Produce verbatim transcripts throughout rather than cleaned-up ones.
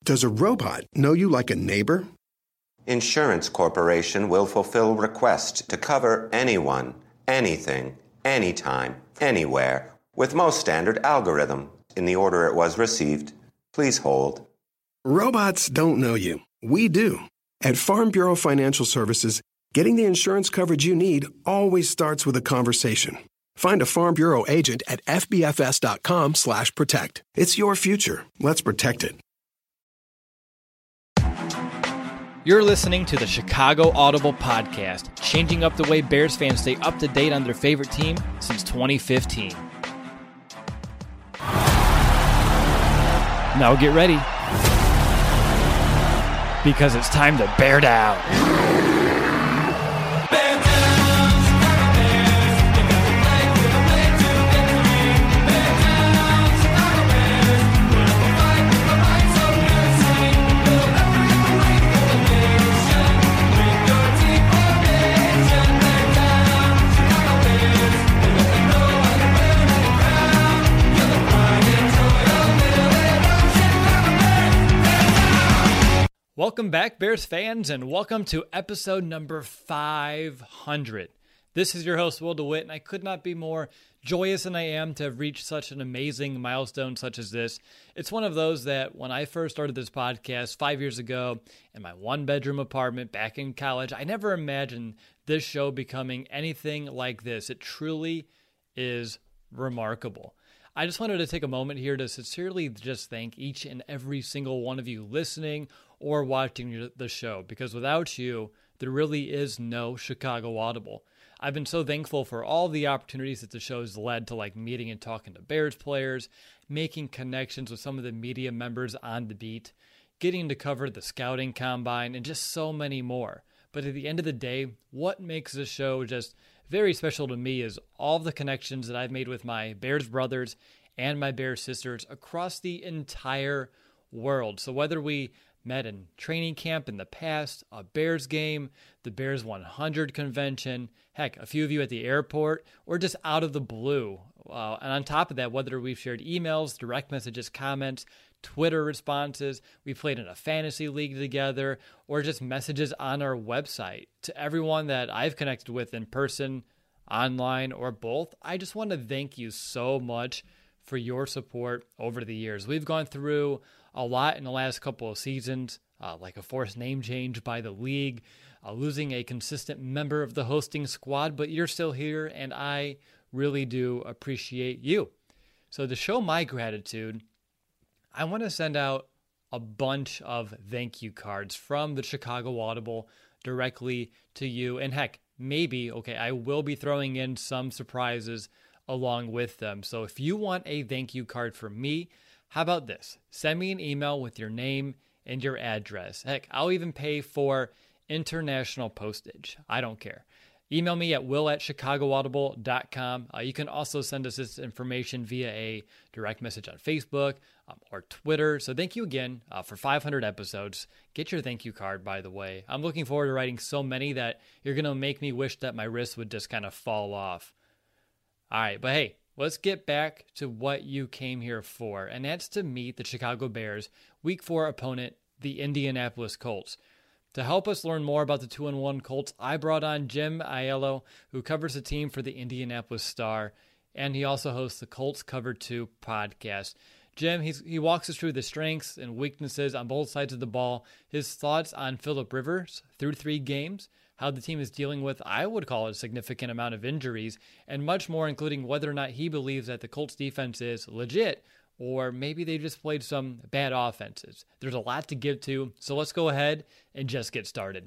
Does a robot know you like a neighbor? Insurance Corporation will fulfill requests to cover anyone, anything, anytime, anywhere, with most standard algorithm in the order it was received. Please hold. Robots don't know you. We do. At Farm Bureau Financial Services, getting the insurance coverage you need always starts with a conversation. Find a Farm Bureau agent at F B F S dot com slash protect. It's your future. Let's protect it. You're listening to the Chicago Audible Podcast, changing up the way Bears fans stay up to date on their favorite team since twenty fifteen. Now get ready, because it's time to bear down. Welcome back, Bears fans, and welcome to episode number five hundred. This is your host, Will DeWitt, and I could not be more joyous than I am to have reached such an amazing milestone such as this. It's one of those that when I first started this podcast five years ago in my one-bedroom apartment back in college, I never imagined this show becoming anything like this. It truly is remarkable. I just wanted to take a moment here to sincerely just thank each and every single one of you listening or watching the show, because without you, there really is no Chicago Audible. I've been so thankful for all the opportunities that the show has led to, like meeting and talking to Bears players, making connections with some of the media members on the beat, getting to cover the scouting combine, and just so many more. But at the end of the day, what makes this show just very special to me is all the connections that I've made with my Bears brothers and my Bears sisters across the entire world. So whether we met in training camp in the past, a Bears game, the Bears one hundred convention, heck, a few of you at the airport, or just out of the blue. Uh, and on top of that, whether we've shared emails, direct messages, comments, Twitter responses, we played in a fantasy league together, or just messages on our website. To everyone that I've connected with in person, online, or both, I just want to thank you so much for your support over the years. We've gone through a lot in the last couple of seasons, uh, like a forced name change by the league, uh, losing a consistent member of the hosting squad, but you're still here, and I really do appreciate you. So to show my gratitude, I want to send out a bunch of thank you cards from the Chicago Audible directly to you. And heck, maybe, okay, I will be throwing in some surprises along with them. So if you want a thank you card from me, how about this? Send me an email with your name and your address. Heck, I'll even pay for international postage. I don't care. Email me at will at chicago audible dot com. Uh, you can also send us this information via a direct message on Facebook um, or Twitter. So thank you again uh, for five hundred episodes. Get your thank you card, by the way. I'm looking forward to writing so many that you're going to make me wish that my wrist would just kind of fall off. All right, but hey, let's get back to what you came here for, and that's to meet the Chicago Bears' Week four opponent, the Indianapolis Colts. To help us learn more about the two and one Colts, I brought on Jim Aiello, who covers the team for the Indianapolis Star, and he also hosts the Colts Cover two podcast. Jim, he's, he walks us through the strengths and weaknesses on both sides of the ball, his thoughts on Phillip Rivers through three games, how the team is dealing with, I would call it, a significant amount of injuries, and much more, including whether or not he believes that the Colts defense is legit, or maybe they just played some bad offenses. There's a lot to get to, so let's go ahead and just get started.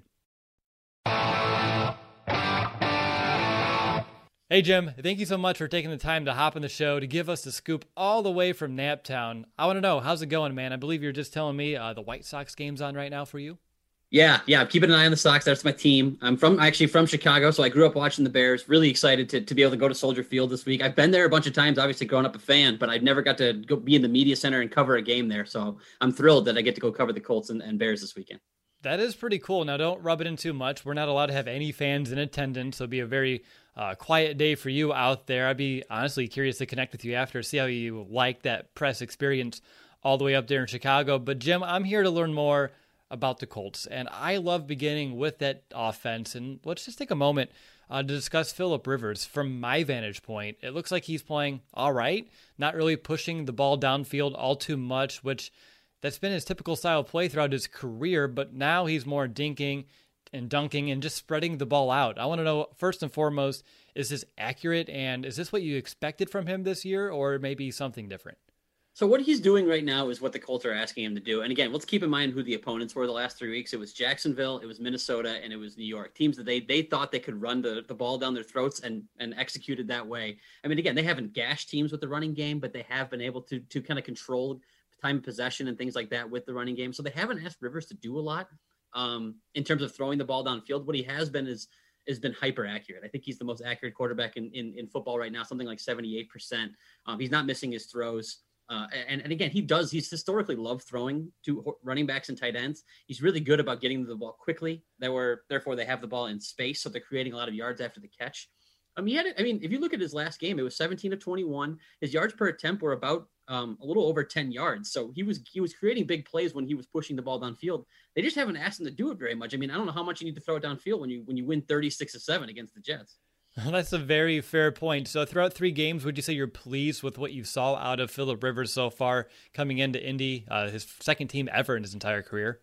Hey, Jim, thank you so much for taking the time to hop on the show to give us the scoop all the way from Naptown. I want to know, how's it going, man? I believe you're just telling me uh, the White Sox game's on right now for you. Yeah, yeah, I'm keeping an eye on the Sox. That's my team. I'm from actually from Chicago, so I grew up watching the Bears. Really excited to, to be able to go to Soldier Field this week. I've been there a bunch of times, obviously growing up a fan, but I've never got to go be in the media center and cover a game there. So I'm thrilled that I get to go cover the Colts and, and Bears this weekend. That is pretty cool. Now, don't rub it in too much. We're not allowed to have any fans in attendance, so it'll be a very uh, quiet day for you out there. I'd be honestly curious to connect with you after, see how you like that press experience all the way up there in Chicago. But Jim, I'm here to learn more about the Colts, and I love beginning with that offense. And let's just take a moment uh, to discuss Phillip Rivers. From my vantage point, it looks like he's playing all right, not really pushing the ball downfield all too much, which that's been his typical style of play throughout his career. But now he's more dinking and dunking and just spreading the ball out. I want to know, first and foremost, is this accurate, and is this what you expected from him this year, or maybe something different? So what he's doing right now is what the Colts are asking him to do. And again, let's keep in mind who the opponents were the last three weeks. It was Jacksonville, it was Minnesota, and it was New York. Teams that they they thought they could run the, the ball down their throats and and executed that way. I mean, again, they haven't gashed teams with the running game, but they have been able to to kind of control time of possession and things like that with the running game. So they haven't asked Rivers to do a lot um, in terms of throwing the ball downfield. What he has been is has been hyper accurate. I think he's the most accurate quarterback in in, in football right now, something like seventy-eight percent. Um, he's not missing his throws. Uh, and, and again, he does, he's historically loved throwing to running backs and tight ends. He's really good about getting the ball quickly. They were, therefore they have the ball in space. So they're creating a lot of yards after the catch. Um, he had it. I mean, if you look at his last game, it was seventeen of twenty-one. His yards per attempt were about um, a little over ten yards. So he was, he was creating big plays when he was pushing the ball downfield. They just haven't asked him to do it very much. I mean, I don't know how much you need to throw it downfield when you, when you win thirty-six to seven against the Jets. That's a very fair point. So throughout three games, would you say you're pleased with what you saw out of Phillip Rivers so far coming into Indy, uh, his second team ever in his entire career?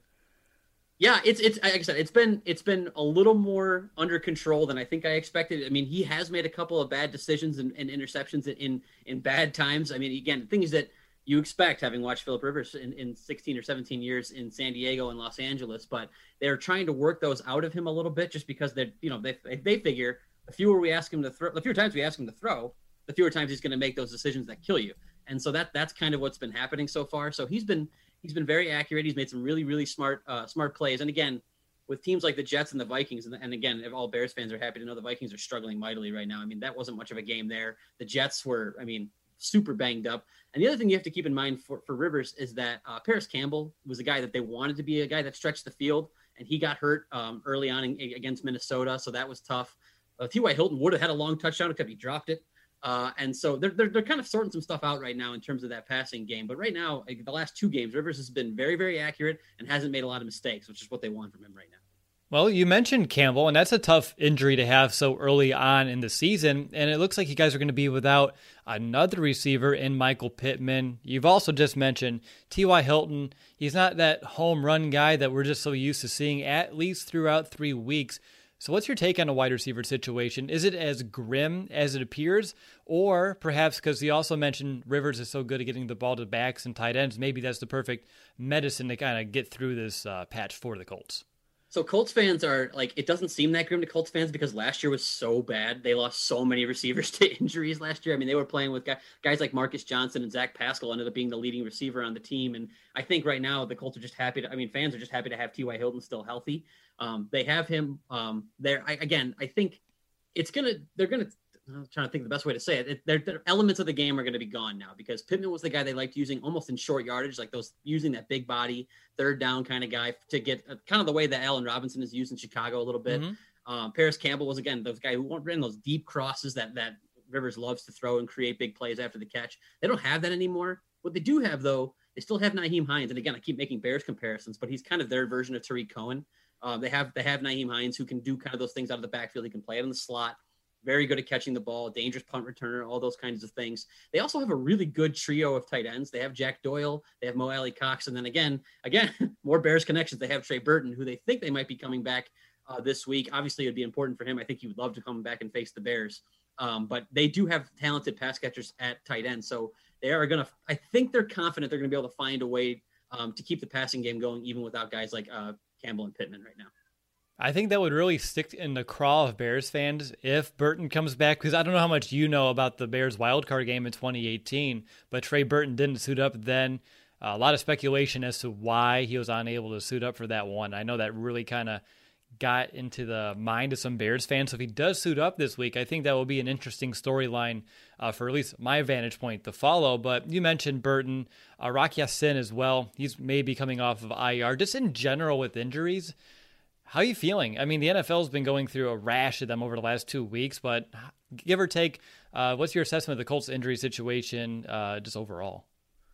Yeah, it's it's like I said, it's been it's been a little more under control than I think I expected. I mean, he has made a couple of bad decisions and, and interceptions in in bad times. I mean, again, things that you expect having watched Phillip Rivers in, in sixteen or seventeen years in San Diego and Los Angeles, but they're trying to work those out of him a little bit just because they you know they they figure the fewer we ask him to throw, the fewer times we ask him to throw, the fewer times he's going to make those decisions that kill you. And so that that's kind of what's been happening so far. So he's been he's been very accurate. He's made some really really smart uh, smart plays. And again, with teams like the Jets and the Vikings, and, and again, if all Bears fans are happy to know the Vikings are struggling mightily right now. I mean, that wasn't much of a game there. The Jets were, I mean, super banged up. And the other thing you have to keep in mind for, for Rivers is that uh, Paris Campbell was a guy that they wanted to be a guy that stretched the field, and he got hurt um, early on in, against Minnesota, so that was tough. Uh, T Y. Hilton would have had a long touchdown except he dropped it. Uh, and so they're, they're, they're kind of sorting some stuff out right now in terms of that passing game. But right now, like the last two games, Rivers has been very, very accurate and hasn't made a lot of mistakes, which is what they want from him right now. Well, you mentioned Campbell, and that's a tough injury to have so early on in the season. And it looks like you guys are going to be without another receiver in Michael Pittman. You've also just mentioned T Y. Hilton. He's not that home run guy that we're just so used to seeing, at least throughout three weeks. So what's your take on a wide receiver situation? Is it as grim as it appears? Or perhaps because you also mentioned Rivers is so good at getting the ball to backs and tight ends, maybe that's the perfect medicine to kind of get through this uh, patch for the Colts. So Colts fans are like, it doesn't seem that grim to Colts fans because last year was so bad. They lost so many receivers to injuries last year. I mean, they were playing with guys, guys like Marcus Johnson and Zach Pascal ended up being the leading receiver on the team. And I think right now the Colts are just happy to, I mean, fans are just happy to have T Y. Hilton still healthy. Um, they have him um, there. I, again, I think it's going to, they're going to, I'm trying to think of the best way to say it. it they're, they're, elements of the game are going to be gone now because Pittman was the guy they liked using almost in short yardage, like those using that big body, third down kind of guy to get uh, kind of the way that Allen Robinson is used in Chicago a little bit. Mm-hmm. Um, Paris Campbell was, again, those guy who ran those deep crosses that, that Rivers loves to throw and create big plays after the catch. They don't have that anymore. What they do have, though, they still have Nyheim Hines. And again, I keep making Bears comparisons, but he's kind of their version of Tariq Cohen. Um, they have they have Nyheim Hines who can do kind of those things out of the backfield. He can play it in the slot. Very good at catching the ball, dangerous punt returner, all those kinds of things. They also have a really good trio of tight ends. They have Jack Doyle, they have Mo Alley Cox, and then again, again, more Bears connections. They have Trey Burton, who they think they might be coming back uh, this week. Obviously, it would be important for him. I think he would love to come back and face the Bears. Um, but they do have talented pass catchers at tight end. So they are going to, I think they're confident they're going to be able to find a way um, to keep the passing game going, even without guys like uh, Campbell and Pittman right now. I think that would really stick in the craw of Bears fans if Burton comes back, because I don't know how much you know about the Bears wildcard game in twenty eighteen, but Trey Burton didn't suit up then. Uh, a lot of speculation as to why he was unable to suit up for that one. I know that really kind of got into the mind of some Bears fans. So if he does suit up this week, I think that will be an interesting storyline uh, for at least my vantage point to follow. But you mentioned Burton, uh, Rock Ya-Sin as well. He's maybe coming off of I R. Just in general with injuries, how are you feeling? I mean, the N F L has been going through a rash of them over the last two weeks, but give or take, uh, what's your assessment of the Colts injury situation uh, just overall?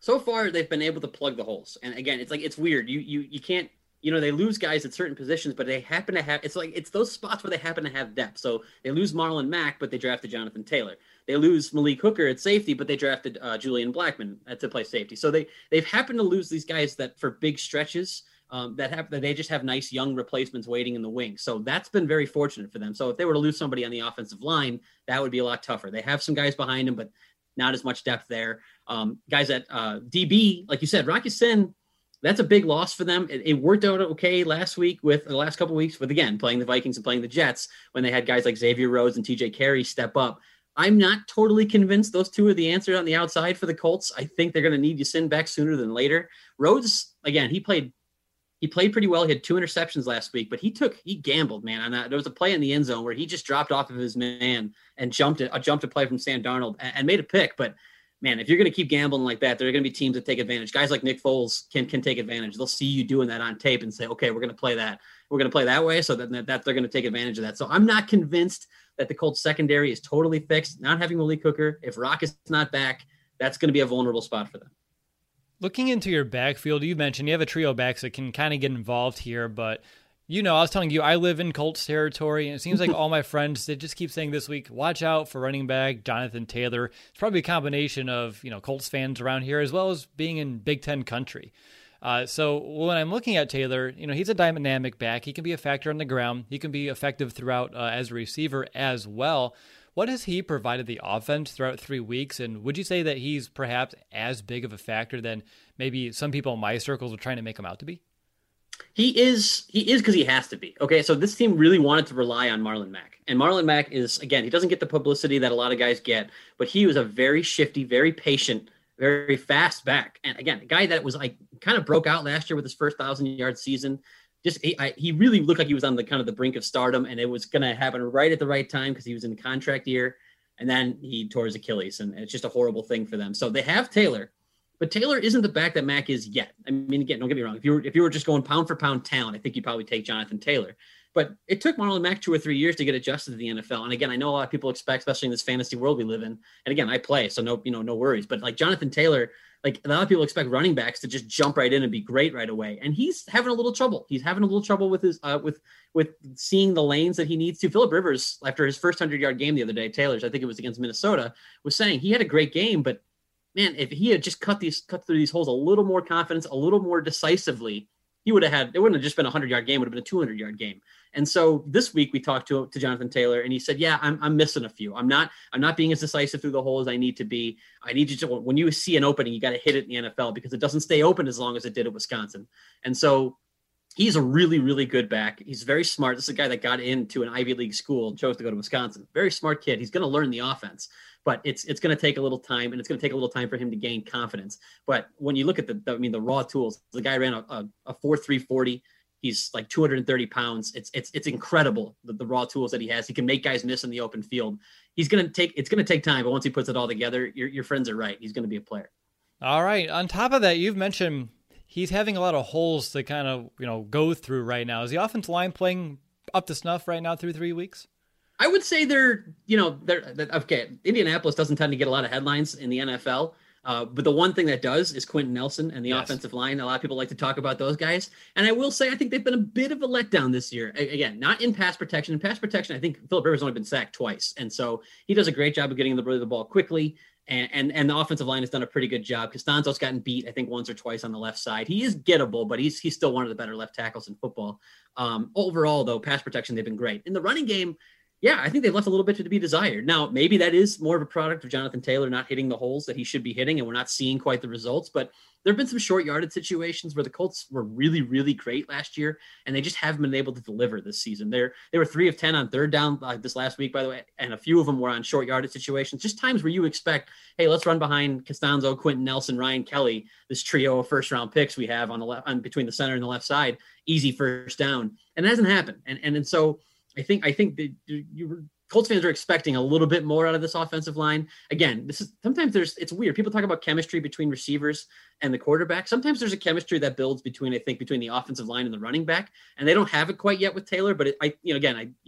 So far, they've been able to plug the holes. And again, it's like, it's weird. You, you, you can't, you know, they lose guys at certain positions, but they happen to have, it's like, it's those spots where they happen to have depth. So they lose Marlon Mack, but they drafted Jonathan Taylor. They lose Malik Hooker at safety, but they drafted uh, Julian Blackmon to play safety. So they, they've happened to lose these guys that for big stretches um, that have, that they just have nice young replacements waiting in the wing. So that's been very fortunate for them. So if they were to lose somebody on the offensive line, that would be a lot tougher. They have some guys behind them, but not as much depth there. Um, guys at uh, D B, like you said, Rock Ya-Sin, that's a big loss for them. It, it worked out okay last week with the last couple of weeks with, again, playing the Vikings and playing the Jets when they had guys like Xavier Rhodes and T J Carey step up. I'm not totally convinced those two are the answer on the outside for the Colts. I think they're going to need Ya-Sin back sooner than later. Rhodes, again, he played he played pretty well. He had two interceptions last week, but he took he gambled, man. On that. There was a play in the end zone where he just dropped off of his man and jumped it, a jumped a play from Sam Darnold and, and made a pick. But man, if you're going to keep gambling like that, there are going to be teams that take advantage. Guys like Nick Foles can can take advantage. They'll see you doing that on tape and say, okay, we're going to play that. We're going to play that way. So that, that they're going to take advantage of that. So I'm not convinced that the Colts secondary is totally fixed. Not having Malik Hooker, if Rock is not back, that's going to be a vulnerable spot for them. Looking into your backfield, you mentioned you have a trio of backs that can kind of get involved here, but you know, I was telling you, I live in Colts territory, and it seems like all my friends, they just keep saying this week, watch out for running back Jonathan Taylor. It's probably a combination of, you know, Colts fans around here, as well as being in Big Ten country. Uh, so when I'm looking at Taylor, you know, he's a dynamic back. He can be a factor on the ground. He can be effective throughout uh, as a receiver as well. What has he provided the offense throughout three weeks? And would you say that he's perhaps as big of a factor than maybe some people in my circles are trying to make him out to be? He is, he is because he has to be. Okay, so this team really wanted to rely on Marlon Mack. And Marlon Mack is, again, he doesn't get the publicity that a lot of guys get, but he was a very shifty, very patient, very fast back. And again, a guy that was like kind of broke out last year with his first thousand-yard season. Just he, I, he really looked like he was on the kind of the brink of stardom, and it was going to happen right at the right time because he was in the contract year, and then he tore his Achilles, and it's just a horrible thing for them. So they have Taylor, but Taylor isn't the back that Mack is yet. I mean, again, don't get me wrong. If you were if you were just going pound for pound talent, I think you'd probably take Jonathan Taylor. But it took Marlon Mack two or three years to get adjusted to the N F L. And again, I know a lot of people expect, especially in this fantasy world we live in. And again, I play, so no, you know, no worries. But like Jonathan Taylor, like a lot of people expect running backs to just jump right in and be great right away. And he's having a little trouble. He's having a little trouble with his uh, with with seeing the lanes that he needs to. Phillip Rivers, after his first hundred-yard game the other day, Taylor's, I think it was against Minnesota, was saying he had a great game, but man, if he had just cut these cut through these holes a little more confidence, a little more decisively, he would have had, it wouldn't have just been a hundred-yard game, it would have been a two hundred-yard game. And so this week we talked to, to Jonathan Taylor, and he said, yeah, I'm, I'm missing a few. I'm not I'm not being as decisive through the hole as I need to be. I need you to, when you see an opening, you got to hit it in the N F L because it doesn't stay open as long as it did at Wisconsin. And so he's a really, really good back. He's very smart. This is a guy that got into an Ivy League school and chose to go to Wisconsin. Very smart kid. He's going to learn the offense. But it's it's going to take a little time, and it's going to take a little time for him to gain confidence. But when you look at the, the I mean, the raw tools, the guy ran a, a, a four three forty. He's like two hundred thirty pounds. It's it's it's incredible the, the raw tools that he has. He can make guys miss in the open field. He's going to take it's going to take time, but once he puts it all together, your your friends are right. He's going to be a player. All right. On top of that, you've mentioned he's having a lot of holes to kind of you know go through right now. Is the offensive line playing up to snuff right now through three weeks? I would say they're, you know, they're, okay, Indianapolis doesn't tend to get a lot of headlines in the N F L, uh, but the one thing that does is Quentin Nelson and the yes. offensive line. A lot of people like to talk about those guys. And I will say, I think they've been a bit of a letdown this year. A- again, not in pass protection. In pass protection, I think Phillip Rivers only been sacked twice. And so he does a great job of getting the, the ball quickly. And, and and the offensive line has done a pretty good job. Costanzo's gotten beat, I think, once or twice on the left side. He is gettable, but he's he's still one of the better left tackles in football. Um, overall, though, pass protection, they've been great. In the running game, yeah, I think they've left a little bit to be desired. Now, maybe that is more of a product of Jonathan Taylor not hitting the holes that he should be hitting, and we're not seeing quite the results. But there have been some short yardage situations where the Colts were really, really great last year, and they just haven't been able to deliver this season. They're, they were three of ten on third down uh, this last week, by the way, and a few of them were on short yardage situations, just times where you expect, hey, let's run behind Costanzo, Quentin Nelson, Ryan Kelly, this trio of first-round picks we have on the left, on between the center and the left side, easy first down, and it hasn't happened. And and and so I think I think that you were. Colts fans are expecting a little bit more out of this offensive line. Again, this is sometimes there's it's weird. People talk about chemistry between receivers and the quarterback. Sometimes there's a chemistry that builds between, I think, between the offensive line and the running back, and they don't have it quite yet with Taylor. But it, I, you know, again, I, it,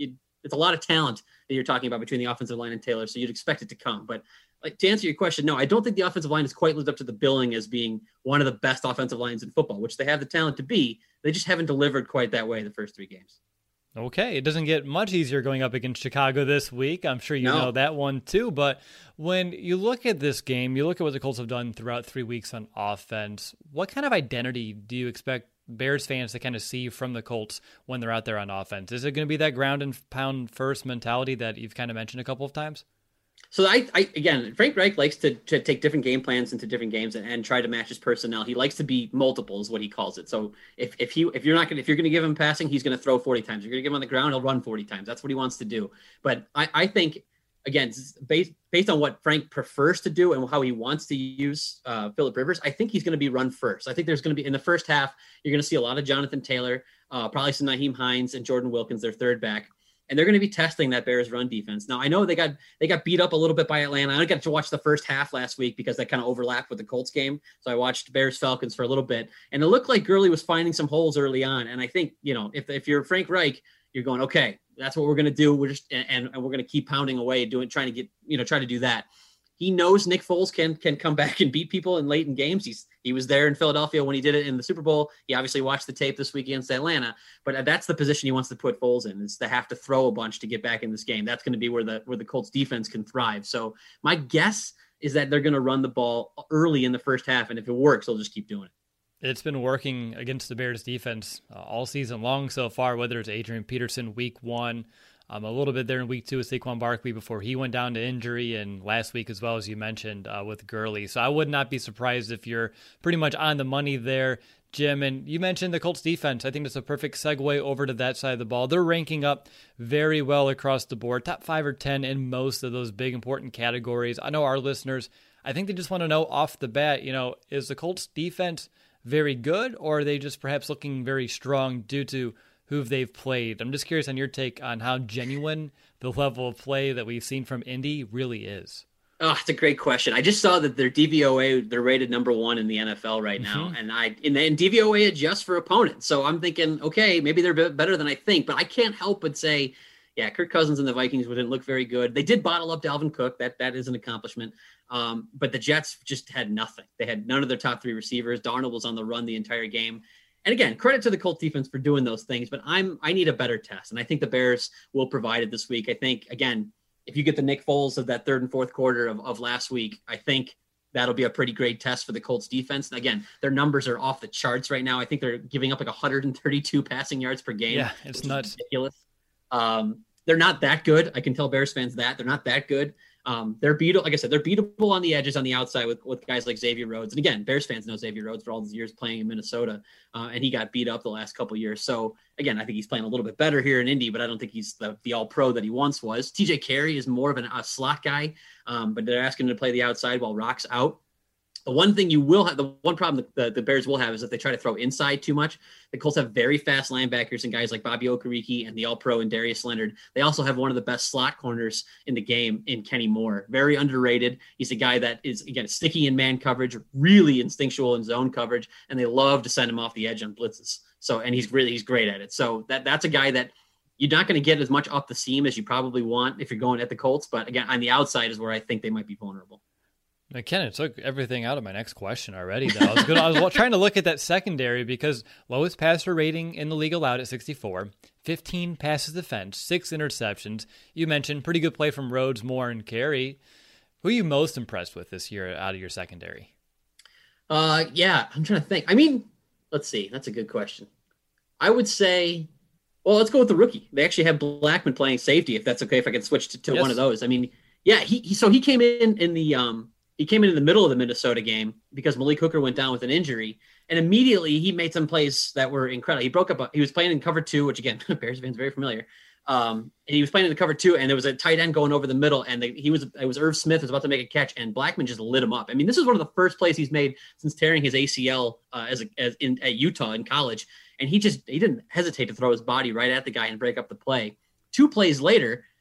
it's a lot of talent that you're talking about between the offensive line and Taylor. So you'd expect it to come. But like to answer your question, no, I don't think the offensive line has quite lived up to the billing as being one of the best offensive lines in football, which they have the talent to be. They just haven't delivered quite that way the first three games. Okay, it doesn't get much easier going up against Chicago this week. I'm sure you no. know that one too. But when you look at this game, you look at what the Colts have done throughout three weeks on offense. What kind of identity do you expect Bears fans to kind of see from the Colts when they're out there on offense? Is it going to be that ground and pound first mentality that you've kind of mentioned a couple of times? So I, I again, Frank Reich likes to, to take different game plans into different games and, and try to match his personnel. He likes to be multiple, is what he calls it. So if if he if you're not gonna if you're gonna give him passing, he's gonna throw forty times. If you're gonna give him on the ground, he'll run forty times. That's what he wants to do. But I, I think again, based based on what Frank prefers to do and how he wants to use uh, Phillip Rivers, I think he's going to be run first. I think there's going to be in the first half, you're going to see a lot of Jonathan Taylor, uh, probably some Nyheim Hines and Jordan Wilkins, their third back. And they're going to be testing that Bears run defense. Now, I know they got they got beat up a little bit by Atlanta. I got to watch the first half last week because that kind of overlapped with the Colts game. So I watched Bears Falcons for a little bit, and it looked like Gurley was finding some holes early on. And I think, you know, if if you're Frank Reich, you're going, okay, that's what we're going to do. We're just and, and we're going to keep pounding away, doing trying to get you know try to do that. He knows Nick Foles can can come back and beat people in late in games. He's he was there in Philadelphia when he did it in the Super Bowl. He obviously watched the tape this week against Atlanta, but that's the position he wants to put Foles in, is to have to throw a bunch to get back in this game. That's going to be where the where the Colts defense can thrive. So my guess is that they're going to run the ball early in the first half, and if it works, they'll just keep doing it. It's been working against the Bears defense uh, all season long so far, whether it's Adrian Peterson week one, Um, a little bit there in week two with Saquon Barkley before he went down to injury, and last week as well, as you mentioned, uh, with Gurley. So I would not be surprised if you're pretty much on the money there, Jim. And you mentioned the Colts defense. I think that's a perfect segue over to that side of the ball. They're ranking up very well across the board, top five or ten in most of those big important categories. I know our listeners, I think they just want to know off the bat, you know, is the Colts defense very good, or are they just perhaps looking very strong due to who they've played? I'm just curious on your take on how genuine the level of play that we've seen from Indy really is. Oh, it's a great question. I just saw that their D V O A, they're rated number one in the N F L right now. Mm-hmm. And I in the D V O A adjusts for opponents. So I'm thinking, okay, maybe they're better than I think, but I can't help but say, yeah, Kirk Cousins and the Vikings didn't look very good. They did bottle up Dalvin Cook. That that is an accomplishment. Um, but the Jets just had nothing. They had none of their top three receivers. Darnold was on the run the entire game. And again, credit to the Colts defense for doing those things, but I'm I need a better test, and I think the Bears will provide it this week. I think, again, if you get the Nick Foles of that third and fourth quarter of, of last week, I think that'll be a pretty great test for the Colts defense. And again, their numbers are off the charts right now. I think they're giving up like one hundred thirty-two passing yards per game. Yeah, it's nuts. Ridiculous. Um, they're not that good. I can tell Bears fans that. They're not that good. Um, they're beatable, like I said, they're beatable on the edges on the outside with, with guys like Xavier Rhodes. And again, Bears fans know Xavier Rhodes for all these years playing in Minnesota, uh, and he got beat up the last couple of years. So again, I think he's playing a little bit better here in Indy, but I don't think he's the, the all pro that he once was. T J Carey is more of an, a slot guy, um, but they're asking him to play the outside while Rock's out. The one thing you will have, the one problem the, the Bears will have is if they try to throw inside too much. The Colts have very fast linebackers and guys like Bobby Okereke and the All-Pro and Darius Leonard. They also have one of the best slot corners in the game in Kenny Moore. Very underrated. He's a guy that is, again, sticky in man coverage, really instinctual in zone coverage, and they love to send him off the edge on blitzes. So, and he's really, he's great at it. So that that's a guy that you're not going to get as much off the seam as you probably want if you're going at the Colts. But again, on the outside is where I think they might be vulnerable. Ken, it took everything out of my next question already. Though. I was good. I was trying to look at that secondary because lowest passer rating in the league allowed at sixty-four, fifteen passes defense, six interceptions. You mentioned pretty good play from Rhodes, Moore, and Carey. Who are you most impressed with this year out of your secondary? Uh, yeah, I'm trying to think. I mean, let's see. That's a good question. I would say, well, let's go with the rookie. They actually have Blackman playing safety, if that's okay, if I can switch to, to yes. one of those. I mean, yeah, he, he so he came in in the um. He came in in the middle of the Minnesota game because Malik Hooker went down with an injury, and immediately he made some plays that were incredible. He broke up. A, he was playing in cover two, which again, Bears fans very familiar. Um, and he was playing in the cover two, and there was a tight end going over the middle, and they, he was it was Irv Smith was about to make a catch, and Blackman just lit him up. I mean, this is one of the first plays he's made since tearing his A C L uh, as a, as in at Utah in college, and he just he didn't hesitate to throw his body right at the guy and break up the play. Two plays later,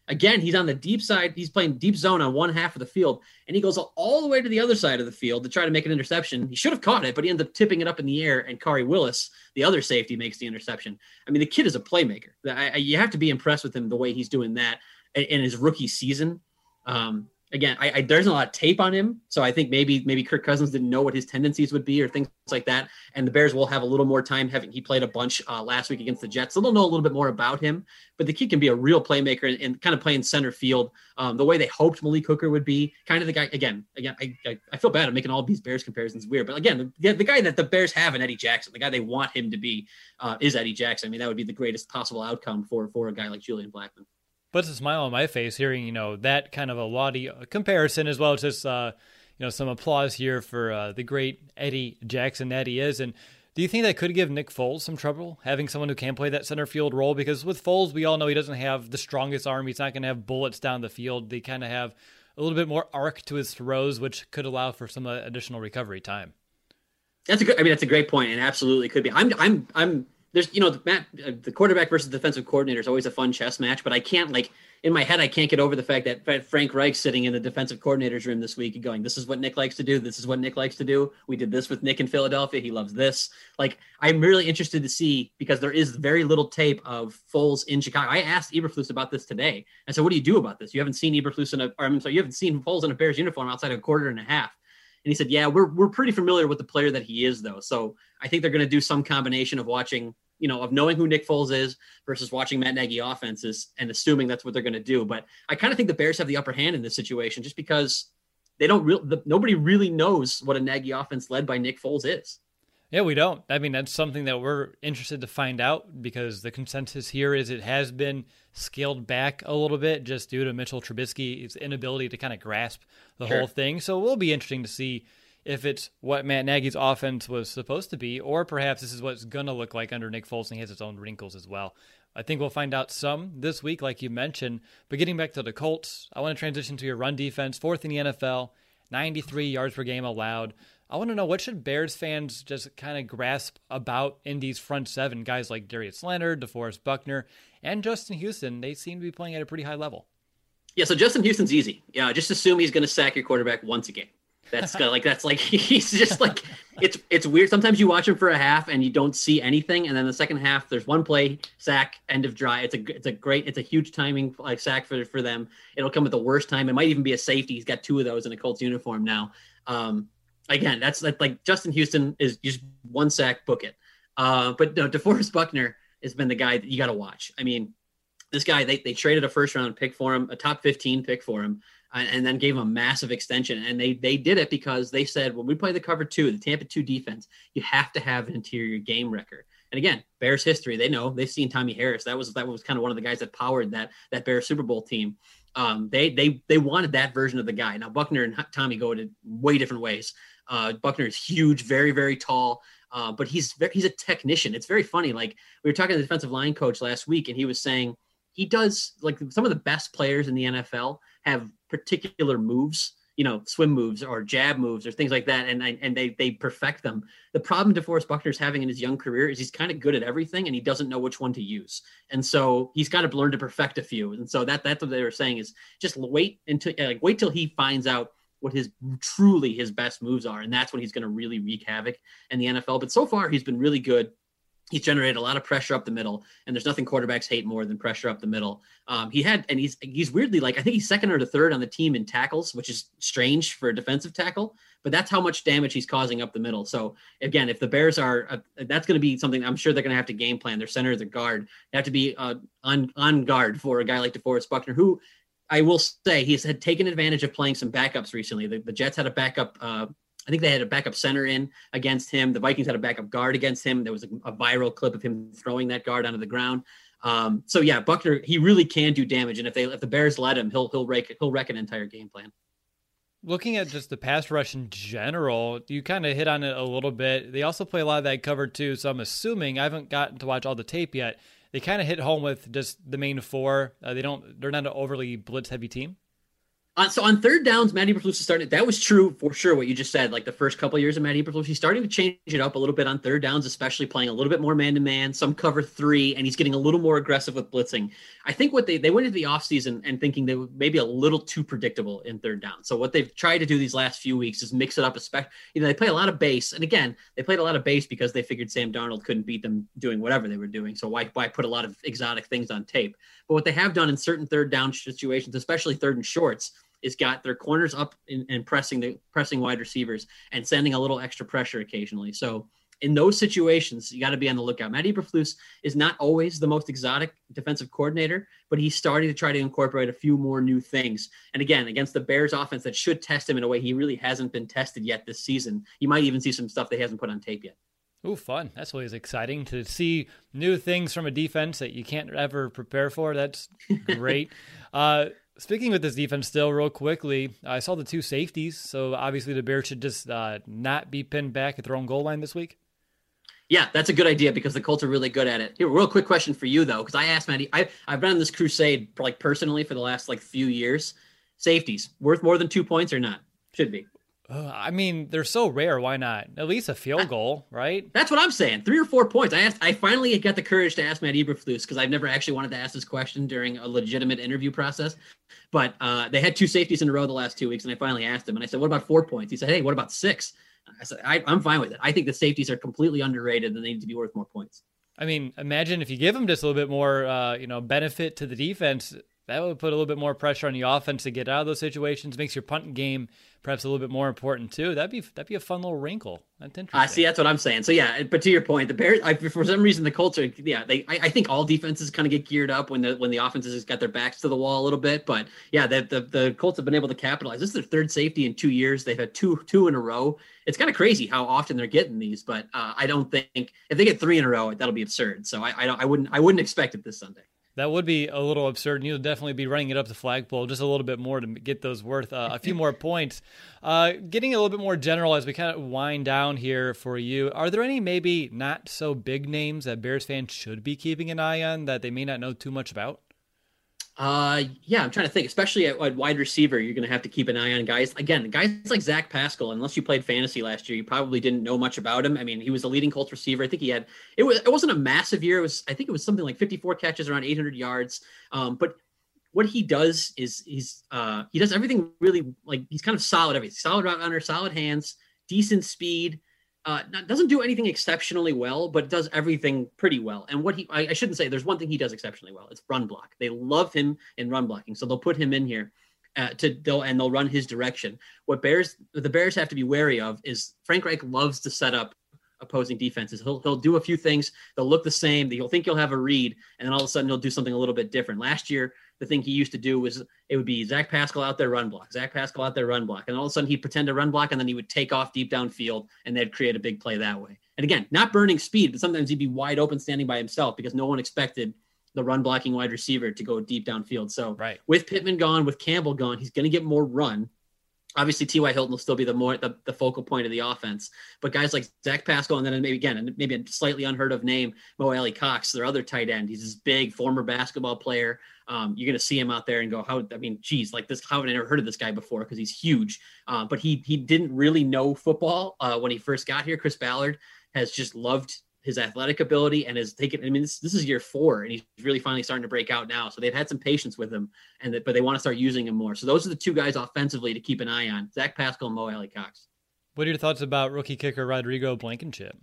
Again, he's on the deep side. He's playing deep zone on one half of the field, and he goes all the way to the other side of the field to try to make an interception. He should have caught it, but he ends up tipping it up in the air, and Khari Willis, the other safety, makes the interception. I mean, the kid is a playmaker. I, I, you have to be impressed with him the way he's doing that in, in his rookie season. Um, Again, I, I, there's a lot of tape on him, so I think maybe maybe Kirk Cousins didn't know what his tendencies would be or things like that. And the Bears will have a little more time having he played a bunch uh, last week against the Jets, so they'll know a little bit more about him. But the kid can be a real playmaker and, and kind of play in center field um, the way they hoped Malik Hooker would be. Kind of the guy. Again, again, I, I, I feel bad. I'm making all these Bears comparisons weird, but again, the, the guy that the Bears have in Eddie Jackson, the guy they want him to be, uh, is Eddie Jackson. I mean, that would be the greatest possible outcome for for a guy like Julian Blackmon. Puts a smile on my face hearing, you know, that kind of a laudy comparison, as well as just, uh, you know, some applause here for uh, the great Eddie Jackson that he is. And do you think that could give Nick Foles some trouble, having someone who can play that center field role? Because with Foles, we all know he doesn't have the strongest arm. He's not going to have bullets down the field. They kind of have a little bit more arc to his throws, which could allow for some uh, additional recovery time. That's a good, I mean, that's a great point, and absolutely could be. I'm, I'm, I'm, There's, you know, the, Matt, uh, the quarterback versus defensive coordinator is always a fun chess match, but I can't, like, in my head, I can't get over the fact that Frank Reich's sitting in the defensive coordinator's room this week and going, this is what Nick likes to do. This is what Nick likes to do. We did this with Nick in Philadelphia. He loves this. Like, I'm really interested to see, because there is very little tape of Foles in Chicago. I asked Eberflus about this today. I said, what do you do about this? You haven't seen Eberflus in a, or I'm sorry, you haven't seen Foles in a Bears uniform outside of a quarter and a half. And he said, yeah, we're, we're pretty familiar with the player that he is, though. So I think they're going to do some combination of watching, you know, of knowing who Nick Foles is versus watching Matt Nagy offenses and assuming that's what they're going to do. But I kind of think the Bears have the upper hand in this situation just because they don't really, the, nobody really knows what a Nagy offense led by Nick Foles is. Yeah, we don't. I mean, that's something that we're interested to find out, because the consensus here is it has been scaled back a little bit just due to Mitchell Trubisky's inability to kind of grasp the sure. whole thing. So it will be interesting to see if it's what Matt Nagy's offense was supposed to be, or perhaps this is what it's going to look like under Nick Foles, and he has its own wrinkles as well. I think we'll find out some this week, like you mentioned. But getting back to the Colts, I want to transition to your run defense, fourth in the N F L, ninety-three yards per game allowed. I want to know, what should Bears fans just kind of grasp about Indy's front seven? Guys like Darius Leonard, DeForest Buckner, and Justin Houston, they seem to be playing at a pretty high level. Yeah, so Justin Houston's easy. Yeah, just assume he's going to sack your quarterback once a game. That's kind of like, that's like, he's just like, it's it's weird. Sometimes you watch him for a half and you don't see anything. And then the second half, there's one play, sack, end of drive. It's a, it's a great, it's a huge timing like sack for, for them. It'll come at the worst time. It might even be a safety. He's got two of those in a Colts uniform now. Um, again, that's, that's like Justin Houston is just one sack, book it. Uh, but no, DeForest Buckner has been the guy that you got to watch. I mean, this guy, they, they traded a first round pick for him, a top fifteen pick for him, and, and then gave him a massive extension. And they they did it because they said, when we play the cover two, the Tampa two defense, you have to have an interior game wrecker. And again, Bears history, they know, they've seen Tommy Harris. That was that was kind of one of the guys that powered that that Bears Super Bowl team. Um, they they they wanted that version of the guy. Now Buckner and Tommy go to way different ways. Uh, Buckner is huge, very very tall. Uh, but he's very, he's a technician. It's very funny. Like, we were talking to the defensive line coach last week, and he was saying he does, like, some of the best players in the N F L have particular moves, you know, swim moves or jab moves or things like that, and and they they perfect them. The problem DeForest Buckner's having in his young career is he's kind of good at everything, and he doesn't know which one to use. And so he's got to learn to perfect a few. And so that that's what they were saying, is just wait until like wait till he finds out what his truly his best moves are. And that's when he's going to really wreak havoc in the N F L. But so far he's been really good. He's generated a lot of pressure up the middle, and there's nothing quarterbacks hate more than pressure up the middle. Um, he had, and he's, he's weirdly, like, I think he's second or the third on the team in tackles, which is strange for a defensive tackle, but that's how much damage he's causing up the middle. So again, if the Bears are, uh, that's going to be something I'm sure they're going to have to game plan. Their center, their guard, they have to be uh, on, on guard for a guy like DeForest Buckner, who, I will say, he's had taken advantage of playing some backups recently. The, the Jets had a backup. Uh, I think they had a backup center in against him. The Vikings had a backup guard against him. There was a, a viral clip of him throwing that guard onto the ground. Um, so yeah, Buckner, he really can do damage. And if they, if the Bears let him, he'll, he'll wreck, he'll wreck an entire game plan. Looking at just the pass rush in general, you kind of hit on it a little bit. They also play a lot of that cover too. So I'm assuming, I haven't gotten to watch all the tape yet, they kind of hit home with just the main four. Uh, they don't, they're not an overly blitz heavy team. Uh, so on third downs, Matt Eberflus is starting. That was true for sure. What you just said, like the first couple of years of Matt Eberflus, he's starting to change it up a little bit on third downs, especially playing a little bit more man to man, some cover three, and he's getting a little more aggressive with blitzing. I think what they they went into the offseason and thinking they were maybe a little too predictable in third down. So what they've tried to do these last few weeks is mix it up. Especially, you know, they play a lot of base, and again, they played a lot of base because they figured Sam Darnold couldn't beat them doing whatever they were doing. So why why put a lot of exotic things on tape? But what they have done in certain third down situations, especially third and shorts, is got their corners up in, and pressing the pressing wide receivers and sending a little extra pressure occasionally. So in those situations, you got to be on the lookout. Matt Eberflus is not always the most exotic defensive coordinator, but he's starting to try to incorporate a few more new things. And again, against the Bears offense that should test him in a way he really hasn't been tested yet this season. You might even see some stuff that he hasn't put on tape yet. Oh, fun. That's always exciting to see new things from a defense that you can't ever prepare for. That's great. uh, Speaking with this defense still real quickly, I saw the two safeties. So obviously the Bears should just uh, not be pinned back at their own goal line this week. Yeah, that's a good idea because the Colts are really good at it. Here, real quick question for you though, because I asked Matty, I, I've been on this crusade for, like personally for the last like few years. Safeties worth more than two points or not? Should be. Uh, I mean, they're so rare. Why not? At least a field goal, right? That's what I'm saying. Three or four points. I asked. I finally got the courage to ask Matt Eberflus because I've never actually wanted to ask this question during a legitimate interview process. But uh, they had two safeties in a row the last two weeks, and I finally asked him. And I said, "What about four points?" He said, "Hey, what about six?" I said, I, "I'm fine with it. I think the safeties are completely underrated, and they need to be worth more points." I mean, imagine if you give them just a little bit more, uh, you know, benefit to the defense. That would put a little bit more pressure on the offense to get out of those situations. Makes your punt game perhaps a little bit more important too. That'd be that'd be a fun little wrinkle. That's interesting. I uh, see. That's what I'm saying. So yeah, but to your point, the Bears, I, for some reason, the Colts are. Yeah, they. I, I think all defenses kind of get geared up when the when the offenses has got their backs to the wall a little bit. But yeah, the the, the Colts have been able to capitalize. This is their third safety in two years. They've had two two in a row. It's kind of crazy how often they're getting these. But uh, I don't think if they get three in a row, that'll be absurd. So I, I don't. I wouldn't. I wouldn't expect it this Sunday. That would be a little absurd, and you'll definitely be running it up the flagpole just a little bit more to get those worth uh, a few more points. Uh, getting a little bit more general as we kind of wind down here for you, are there any maybe not so big names that Bears fans should be keeping an eye on that they may not know too much about? Uh, yeah, I'm trying to think, especially at, at wide receiver, you're going to have to keep an eye on guys. Again, guys like Zach Pascal, unless you played fantasy last year, you probably didn't know much about him. I mean, he was the leading Colts receiver. I think he had, it was, it wasn't a massive year. It was, I think it was something like fifty-four catches, around eight hundred yards. Um, but what he does is he's, uh, he does everything really, like he's kind of solid, everything, solid route runner, solid hands, decent speed. Uh, not, doesn't do anything exceptionally well, but does everything pretty well. And what he, I, I shouldn't say, there's one thing he does exceptionally well. It's run block. They love him in run blocking, so they'll put him in here uh, to they'll and they'll run his direction. What Bears, the Bears have to be wary of is Frank Reich loves to set up opposing defenses. He'll he'll do a few things. They'll look the same. You'll think you'll have a read, and then all of a sudden he'll do something a little bit different. Last year, the thing he used to do was it would be Zach Pascal out there run block, Zach Pascal out there run block, and all of a sudden he'd pretend to run block, and then he would take off deep downfield, and they'd create a big play that way. And again, not burning speed, but sometimes he'd be wide open standing by himself because no one expected the run blocking wide receiver to go deep downfield. So right. With Pittman gone, with Campbell gone, he's going to get more run. Obviously, T Y Hilton will still be the more the, the focal point of the offense, but guys like Zach Pascal, and then maybe again, maybe a slightly unheard of name, Mo Alley Cox, their other tight end. He's this big former basketball player. Um, you're going to see him out there and go, how? I mean, geez, like this. How have I never heard of this guy before? Because he's huge, uh, but he he didn't really know football uh, when he first got here. Chris Ballard has just loved his athletic ability and has taken, I mean, this, this is year four and he's really finally starting to break out now. So they've had some patience with him and that, but they want to start using him more. So those are the two guys offensively to keep an eye on, Zach Pascal and Mo Alley Cox. What are your thoughts about rookie kicker Rodrigo Blankenship?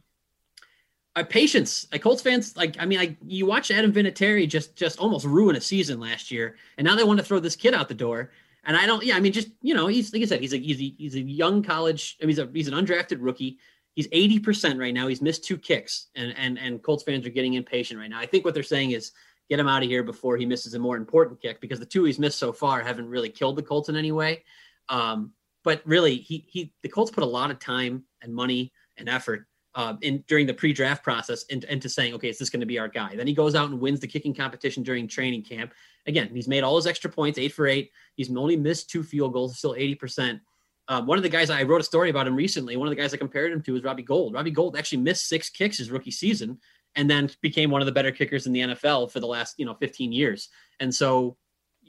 Uh, patience. Like Colts fans, like, I mean, I, you watch Adam Vinatieri just, just almost ruin a season last year. And now they want to throw this kid out the door. And I don't, yeah, I mean, just, you know, he's, like I said, he's a, he's a, he's a young college, I mean, he's a, he's an undrafted rookie. He's eighty percent right now. He's missed two kicks, and and and Colts fans are getting impatient right now. I think what they're saying is get him out of here before he misses a more important kick, because the two he's missed so far haven't really killed the Colts in any way. Um, but really, he he the Colts put a lot of time and money and effort uh, in during the pre-draft process into, into saying, okay, is this going to be our guy? Then he goes out and wins the kicking competition during training camp. Again, he's made all his extra points, eight for eight. He's only missed two field goals, still eighty percent. Um, one of the guys I wrote a story about him recently. One of the guys I compared him to was Robbie Gould. Robbie Gould actually missed six kicks his rookie season, and then became one of the better kickers in the N F L for the last, you know, fifteen years. And so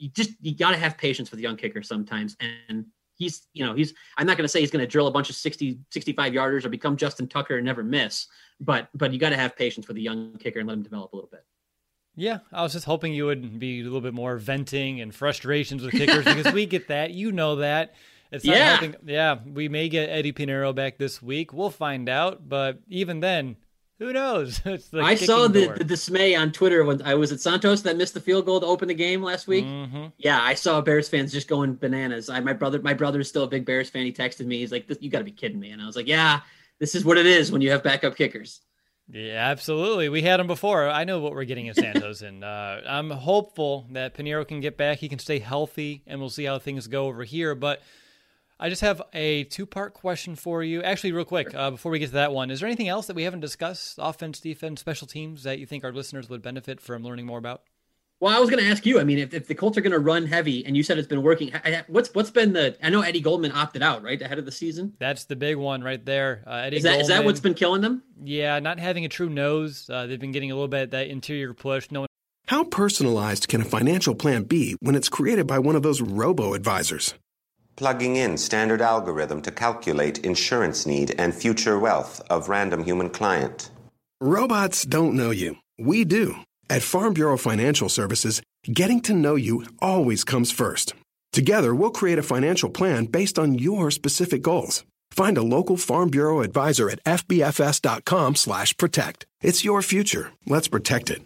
you just you got to have patience with young kickers sometimes. And he's, you know, he's I'm not going to say he's going to drill a bunch of sixty, sixty-five yarders or become Justin Tucker and never miss, but but you got to have patience with a young kicker and let him develop a little bit. Yeah, I was just hoping you would be a little bit more venting and frustrations with kickers because we get that. You know that. It's not yeah. helping. Yeah, we may get Eddie Pinheiro back this week. We'll find out. But even then, who knows? It's the I saw the, door. the dismay on Twitter when I was at Santos that missed the field goal to open the game last week. Mm-hmm. Yeah, I saw Bears fans just going bananas. I, my brother, my brother is still a big Bears fan. He texted me. He's like, "You got to be kidding me!" And I was like, "Yeah, this is what it is when you have backup kickers." Yeah, absolutely. We had him before. I know what we're getting at Santos, and uh, I'm hopeful that Pinheiro can get back. He can stay healthy, and we'll see how things go over here. But I just have a two-part question for you. Actually, real quick, uh, before we get to that one, is there anything else that we haven't discussed, offense, defense, special teams, that you think our listeners would benefit from learning more about? Well, I was going to ask you, I mean, if, if the Colts are going to run heavy and you said it's been working, what's what's been the, I know Eddie Goldman opted out, right, ahead of the season? That's the big one right there. Uh, Eddie is, that, Goldman, is that what's been killing them? Yeah, not having a true nose. Uh, they've been getting a little bit of that interior push. No one. How personalized can a financial plan be when it's created by one of those robo-advisors? Plugging in standard algorithm to calculate insurance need and future wealth of random human client. Robots don't know you. We do. At Farm Bureau Financial Services, getting to know you always comes first. Together, we'll create a financial plan based on your specific goals. Find a local Farm Bureau advisor at fbfs.com slash protect. It's your future. Let's protect it.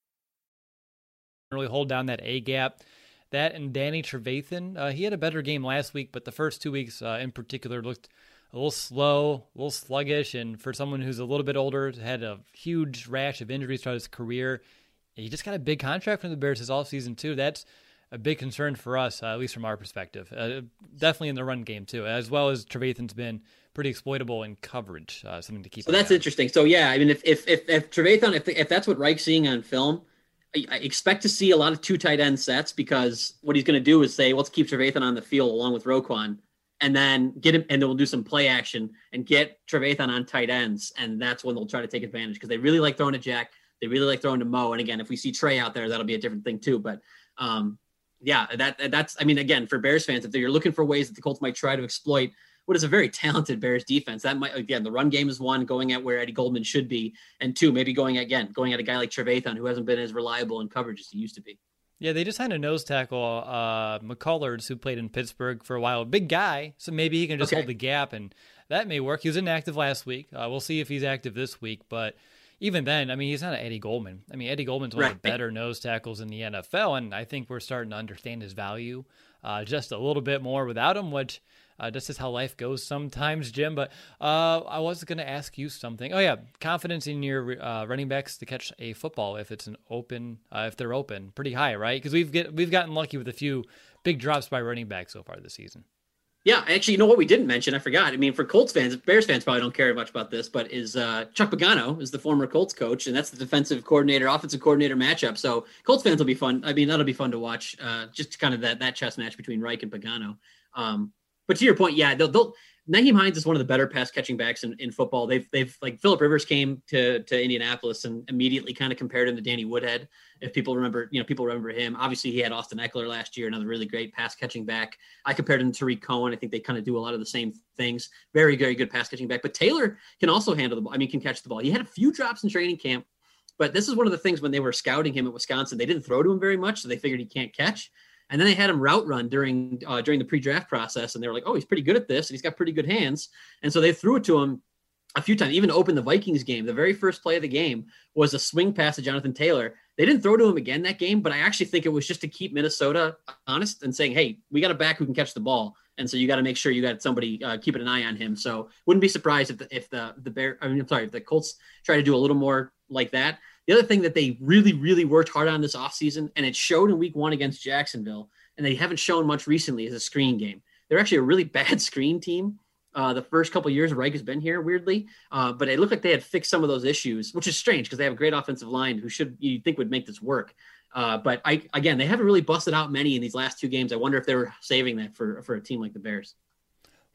Really hold down that A gap. That and Danny Trevathan, uh, he had a better game last week, but the first two weeks uh, in particular looked a little slow, a little sluggish, and for someone who's a little bit older, had a huge rash of injuries throughout his career, he just got a big contract from the Bears this offseason too. That's a big concern for us, uh, at least from our perspective. Uh, definitely in the run game too, as well as Trevathan's been pretty exploitable in coverage, uh, something to keep So an that's eye on. Interesting. So yeah, I mean, if if if, if Trevathan, if if that's what Reich's seeing on film, I, I expect to see a lot of two tight end sets, because what he's going to do is say, let's keep Trevathan on the field along with Roquan, and then get him, and then we'll do some play action and get Trevathan on tight ends, and that's when they'll try to take advantage, because they really like throwing to Jack. They really like throwing to Mo. And again, if we see Trey out there, that'll be a different thing too. But um, yeah, that that's, I mean, again, for Bears fans, if you're looking for ways that the Colts might try to exploit what is a very talented Bears defense, that might, again, the run game is one, going at where Eddie Goldman should be. And two, maybe going again, going at a guy like Trevathan, who hasn't been as reliable in coverage as he used to be. Yeah, they just had a nose tackle, uh, McCullers, who played in Pittsburgh for a while. Big guy, so maybe he can just okay. hold the gap, and that may work. He was inactive last week. Uh, we'll see if he's active this week, but even then, I mean, he's not an Eddie Goldman. I mean, Eddie Goldman's one right. of the better nose tackles in the N F L, and I think we're starting to understand his value uh, just a little bit more without him, which uh, just is how life goes sometimes, Jim. But uh, I was going to ask you something. Oh, yeah, confidence in your uh, running backs to catch a football if it's an open, uh, if they're open, pretty high, right? Because we've get we've gotten lucky with a few big drops by running backs so far this season. Yeah, actually, you know what we didn't mention? I forgot. I mean, for Colts fans, Bears fans probably don't care much about this, but is uh, Chuck Pagano is the former Colts coach, and that's the defensive coordinator, offensive coordinator matchup. So Colts fans will be fun. I mean, that'll be fun to watch. Uh, just kind of that that chess match between Reich and Pagano. Um, but to your point, yeah, they'll, they'll Nyheim Hines is one of the better pass catching backs in, in football. They've they've like Phillip Rivers came to to Indianapolis and immediately kind of compared him to Danny Woodhead. If people remember, you know, people remember him. Obviously, he had Austin Eckler last year, another really great pass catching back. I compared him to Tariq Cohen. I think they kind of do a lot of the same things. Very, very good pass catching back. But Taylor can also handle the ball. I mean, can catch the ball. He had a few drops in training camp, but this is one of the things when they were scouting him at Wisconsin, they didn't throw to him very much, so they figured he can't catch. And then they had him route run during uh, during the pre-draft process, and they were like, oh, he's pretty good at this, and he's got pretty good hands. And so they threw it to him a few times, even to open the Vikings game. The very first play of the game was a swing pass to Jonathan Taylor. They didn't throw to him again that game, but I actually think it was just to keep Minnesota honest and saying, hey, we got a back who can catch the ball. And so you got to make sure you got somebody uh, keeping an eye on him. So wouldn't be surprised if the, if the, the Bear, I mean, I'm sorry, if the Colts try to do a little more like that. The other thing that they really, really worked hard on this offseason, and it showed in week one against Jacksonville, and they haven't shown much recently, is a screen game. They're actually a really bad screen team. Uh, the first couple of years Reich has been here, weirdly, uh, but it looked like they had fixed some of those issues, which is strange because they have a great offensive line who should you think would make this work. Uh, but I again, they haven't really busted out many in these last two games. I wonder if they were saving that for for a team like the Bears.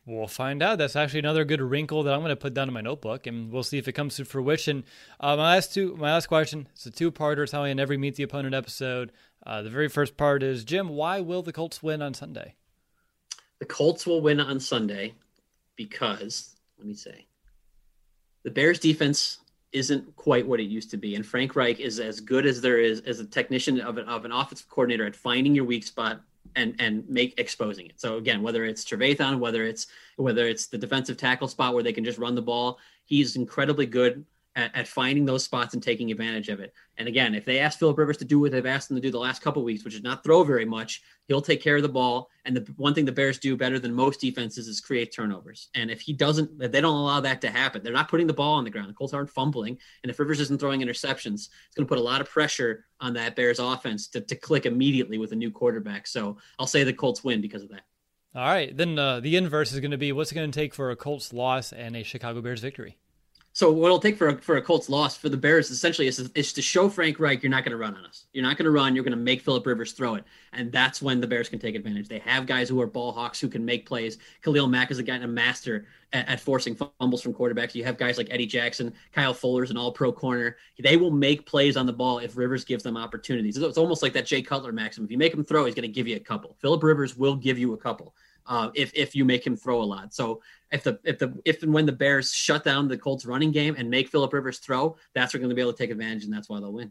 We'll find out. That's actually another good wrinkle that I'm going to put down in my notebook, and we'll see if it comes to fruition. Uh, my last two, my last question, it's a two-parter. It's how I end every Meet the Opponent episode. Uh, the very first part is, Jim, why will the Colts win on Sunday? The Colts will win on Sunday because, let me say, the Bears defense isn't quite what it used to be, and Frank Reich is as good as there is as a technician of an, of an offensive coordinator at finding your weak spot and and make exposing it. So again, whether it's Trevathan, whether it's whether it's the defensive tackle spot where they can just run the ball, he's incredibly good at, at finding those spots and taking advantage of it. And again, if they ask Philip Rivers to do what they've asked him to do the last couple of weeks, which is not throw very much, he'll take care of the ball. And the one thing the Bears do better than most defenses is create turnovers. And if he doesn't, if they don't allow that to happen, they're not putting the ball on the ground. The Colts aren't fumbling. And if Rivers isn't throwing interceptions, it's going to put a lot of pressure on that Bears offense to, to click immediately with a new quarterback. So I'll say the Colts win because of that. All right. Then uh, the inverse is going to be, what's it going to take for a Colts loss and a Chicago Bears victory? So what it'll take for a, for a Colts loss for the Bears essentially is, is to show Frank Reich, you're not going to run on us. You're not going to run. You're going to make Philip Rivers throw it. And that's when the Bears can take advantage. They have guys who are ball hawks who can make plays. Khalil Mack is a guy, a master at, at forcing fumbles from quarterbacks. You have guys like Eddie Jackson, Kyle Fuller's an all-pro corner. They will make plays on the ball if Rivers gives them opportunities. It's almost like that Jay Cutler maxim. If you make him throw, he's going to give you a couple. Philip Rivers will give you a couple. Uh, if if you make him throw a lot. So if the if the if and when the Bears shut down the Colts running game and make Philip Rivers throw, that's where they're going to be able to take advantage, and that's why they'll win.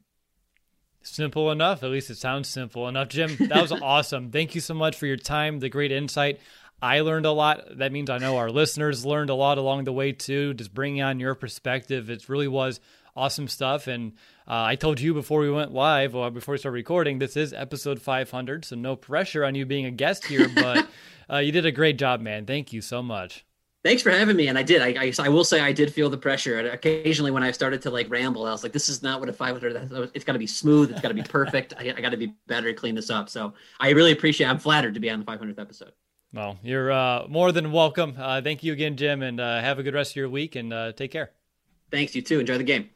Simple enough. At least it sounds simple enough. Jim, that was awesome. Thank you so much for your time, the great insight. I learned a lot. That means I know our listeners learned a lot along the way too, just bringing on your perspective. It really was awesome stuff. And uh, I told you before we went live, or before we started recording, this is episode five hundred, so no pressure on you being a guest here, but uh, you did a great job, man. Thank you so much. Thanks for having me. And I did. I, I I will say I did feel the pressure. And occasionally when I started to like ramble, I was like, this is not what a five hundred, it's got to be smooth. It's got to be perfect. I, I got to be better to clean this up. So I really appreciate it. I'm flattered to be on the five hundredth episode. Well, you're uh, more than welcome. Uh, thank you again, Jim, and uh, have a good rest of your week, and uh, take care. Thanks, you too. Enjoy the game.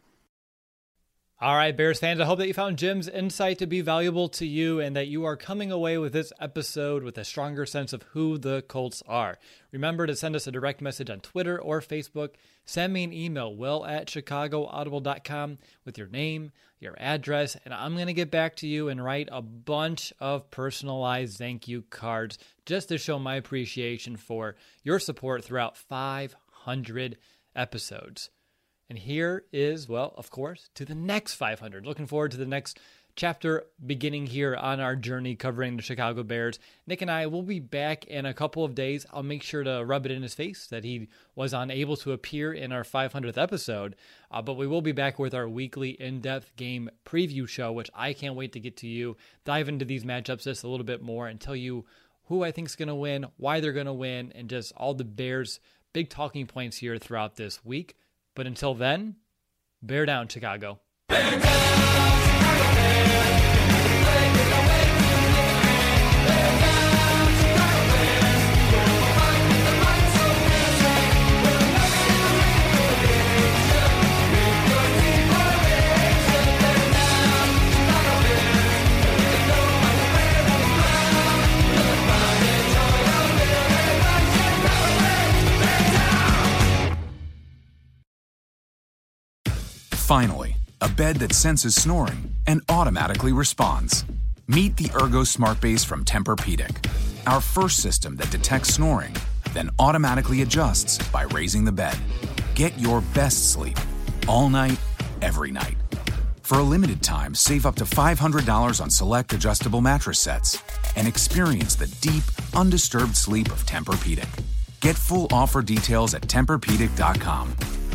All right, Bears fans, I hope that you found Jim's insight to be valuable to you and that you are coming away with this episode with a stronger sense of who the Colts are. Remember to send us a direct message on Twitter or Facebook. Send me an email, will at chicago audible dot com, with your name, your address, and I'm going to get back to you and write a bunch of personalized thank you cards just to show my appreciation for your support throughout five hundred episodes. And here is, well, of course, to the next five hundred. Looking forward to the next chapter beginning here on our journey covering the Chicago Bears. Nick and I will be back in a couple of days. I'll make sure to rub it in his face that he was unable to appear in our five hundredth episode. Uh, but we will be back with our weekly in-depth game preview show, which I can't wait to get to you, dive into these matchups just a little bit more and tell you who I think is going to win, why they're going to win, and just all the Bears' big talking points here throughout this week. But until then, bear down, Chicago. Bear down, Chicago Bears. Play with the way we live. Bear down, Chicago Bears. We'll fight with the might so fierce. We'll never get away with your team for a nation. Bear down, Chicago Bears. We can go on the way of the ground. We'll find and joy of living like Chicago Bears. Bear down. Finally, a bed that senses snoring and automatically responds. Meet the Ergo Smart Base from Tempur-Pedic, our first system that detects snoring, then automatically adjusts by raising the bed. Get your best sleep all night, every night. For a limited time, save up to five hundred dollars on select adjustable mattress sets and experience the deep, undisturbed sleep of Tempur-Pedic. Get full offer details at Tempur Pedic dot com.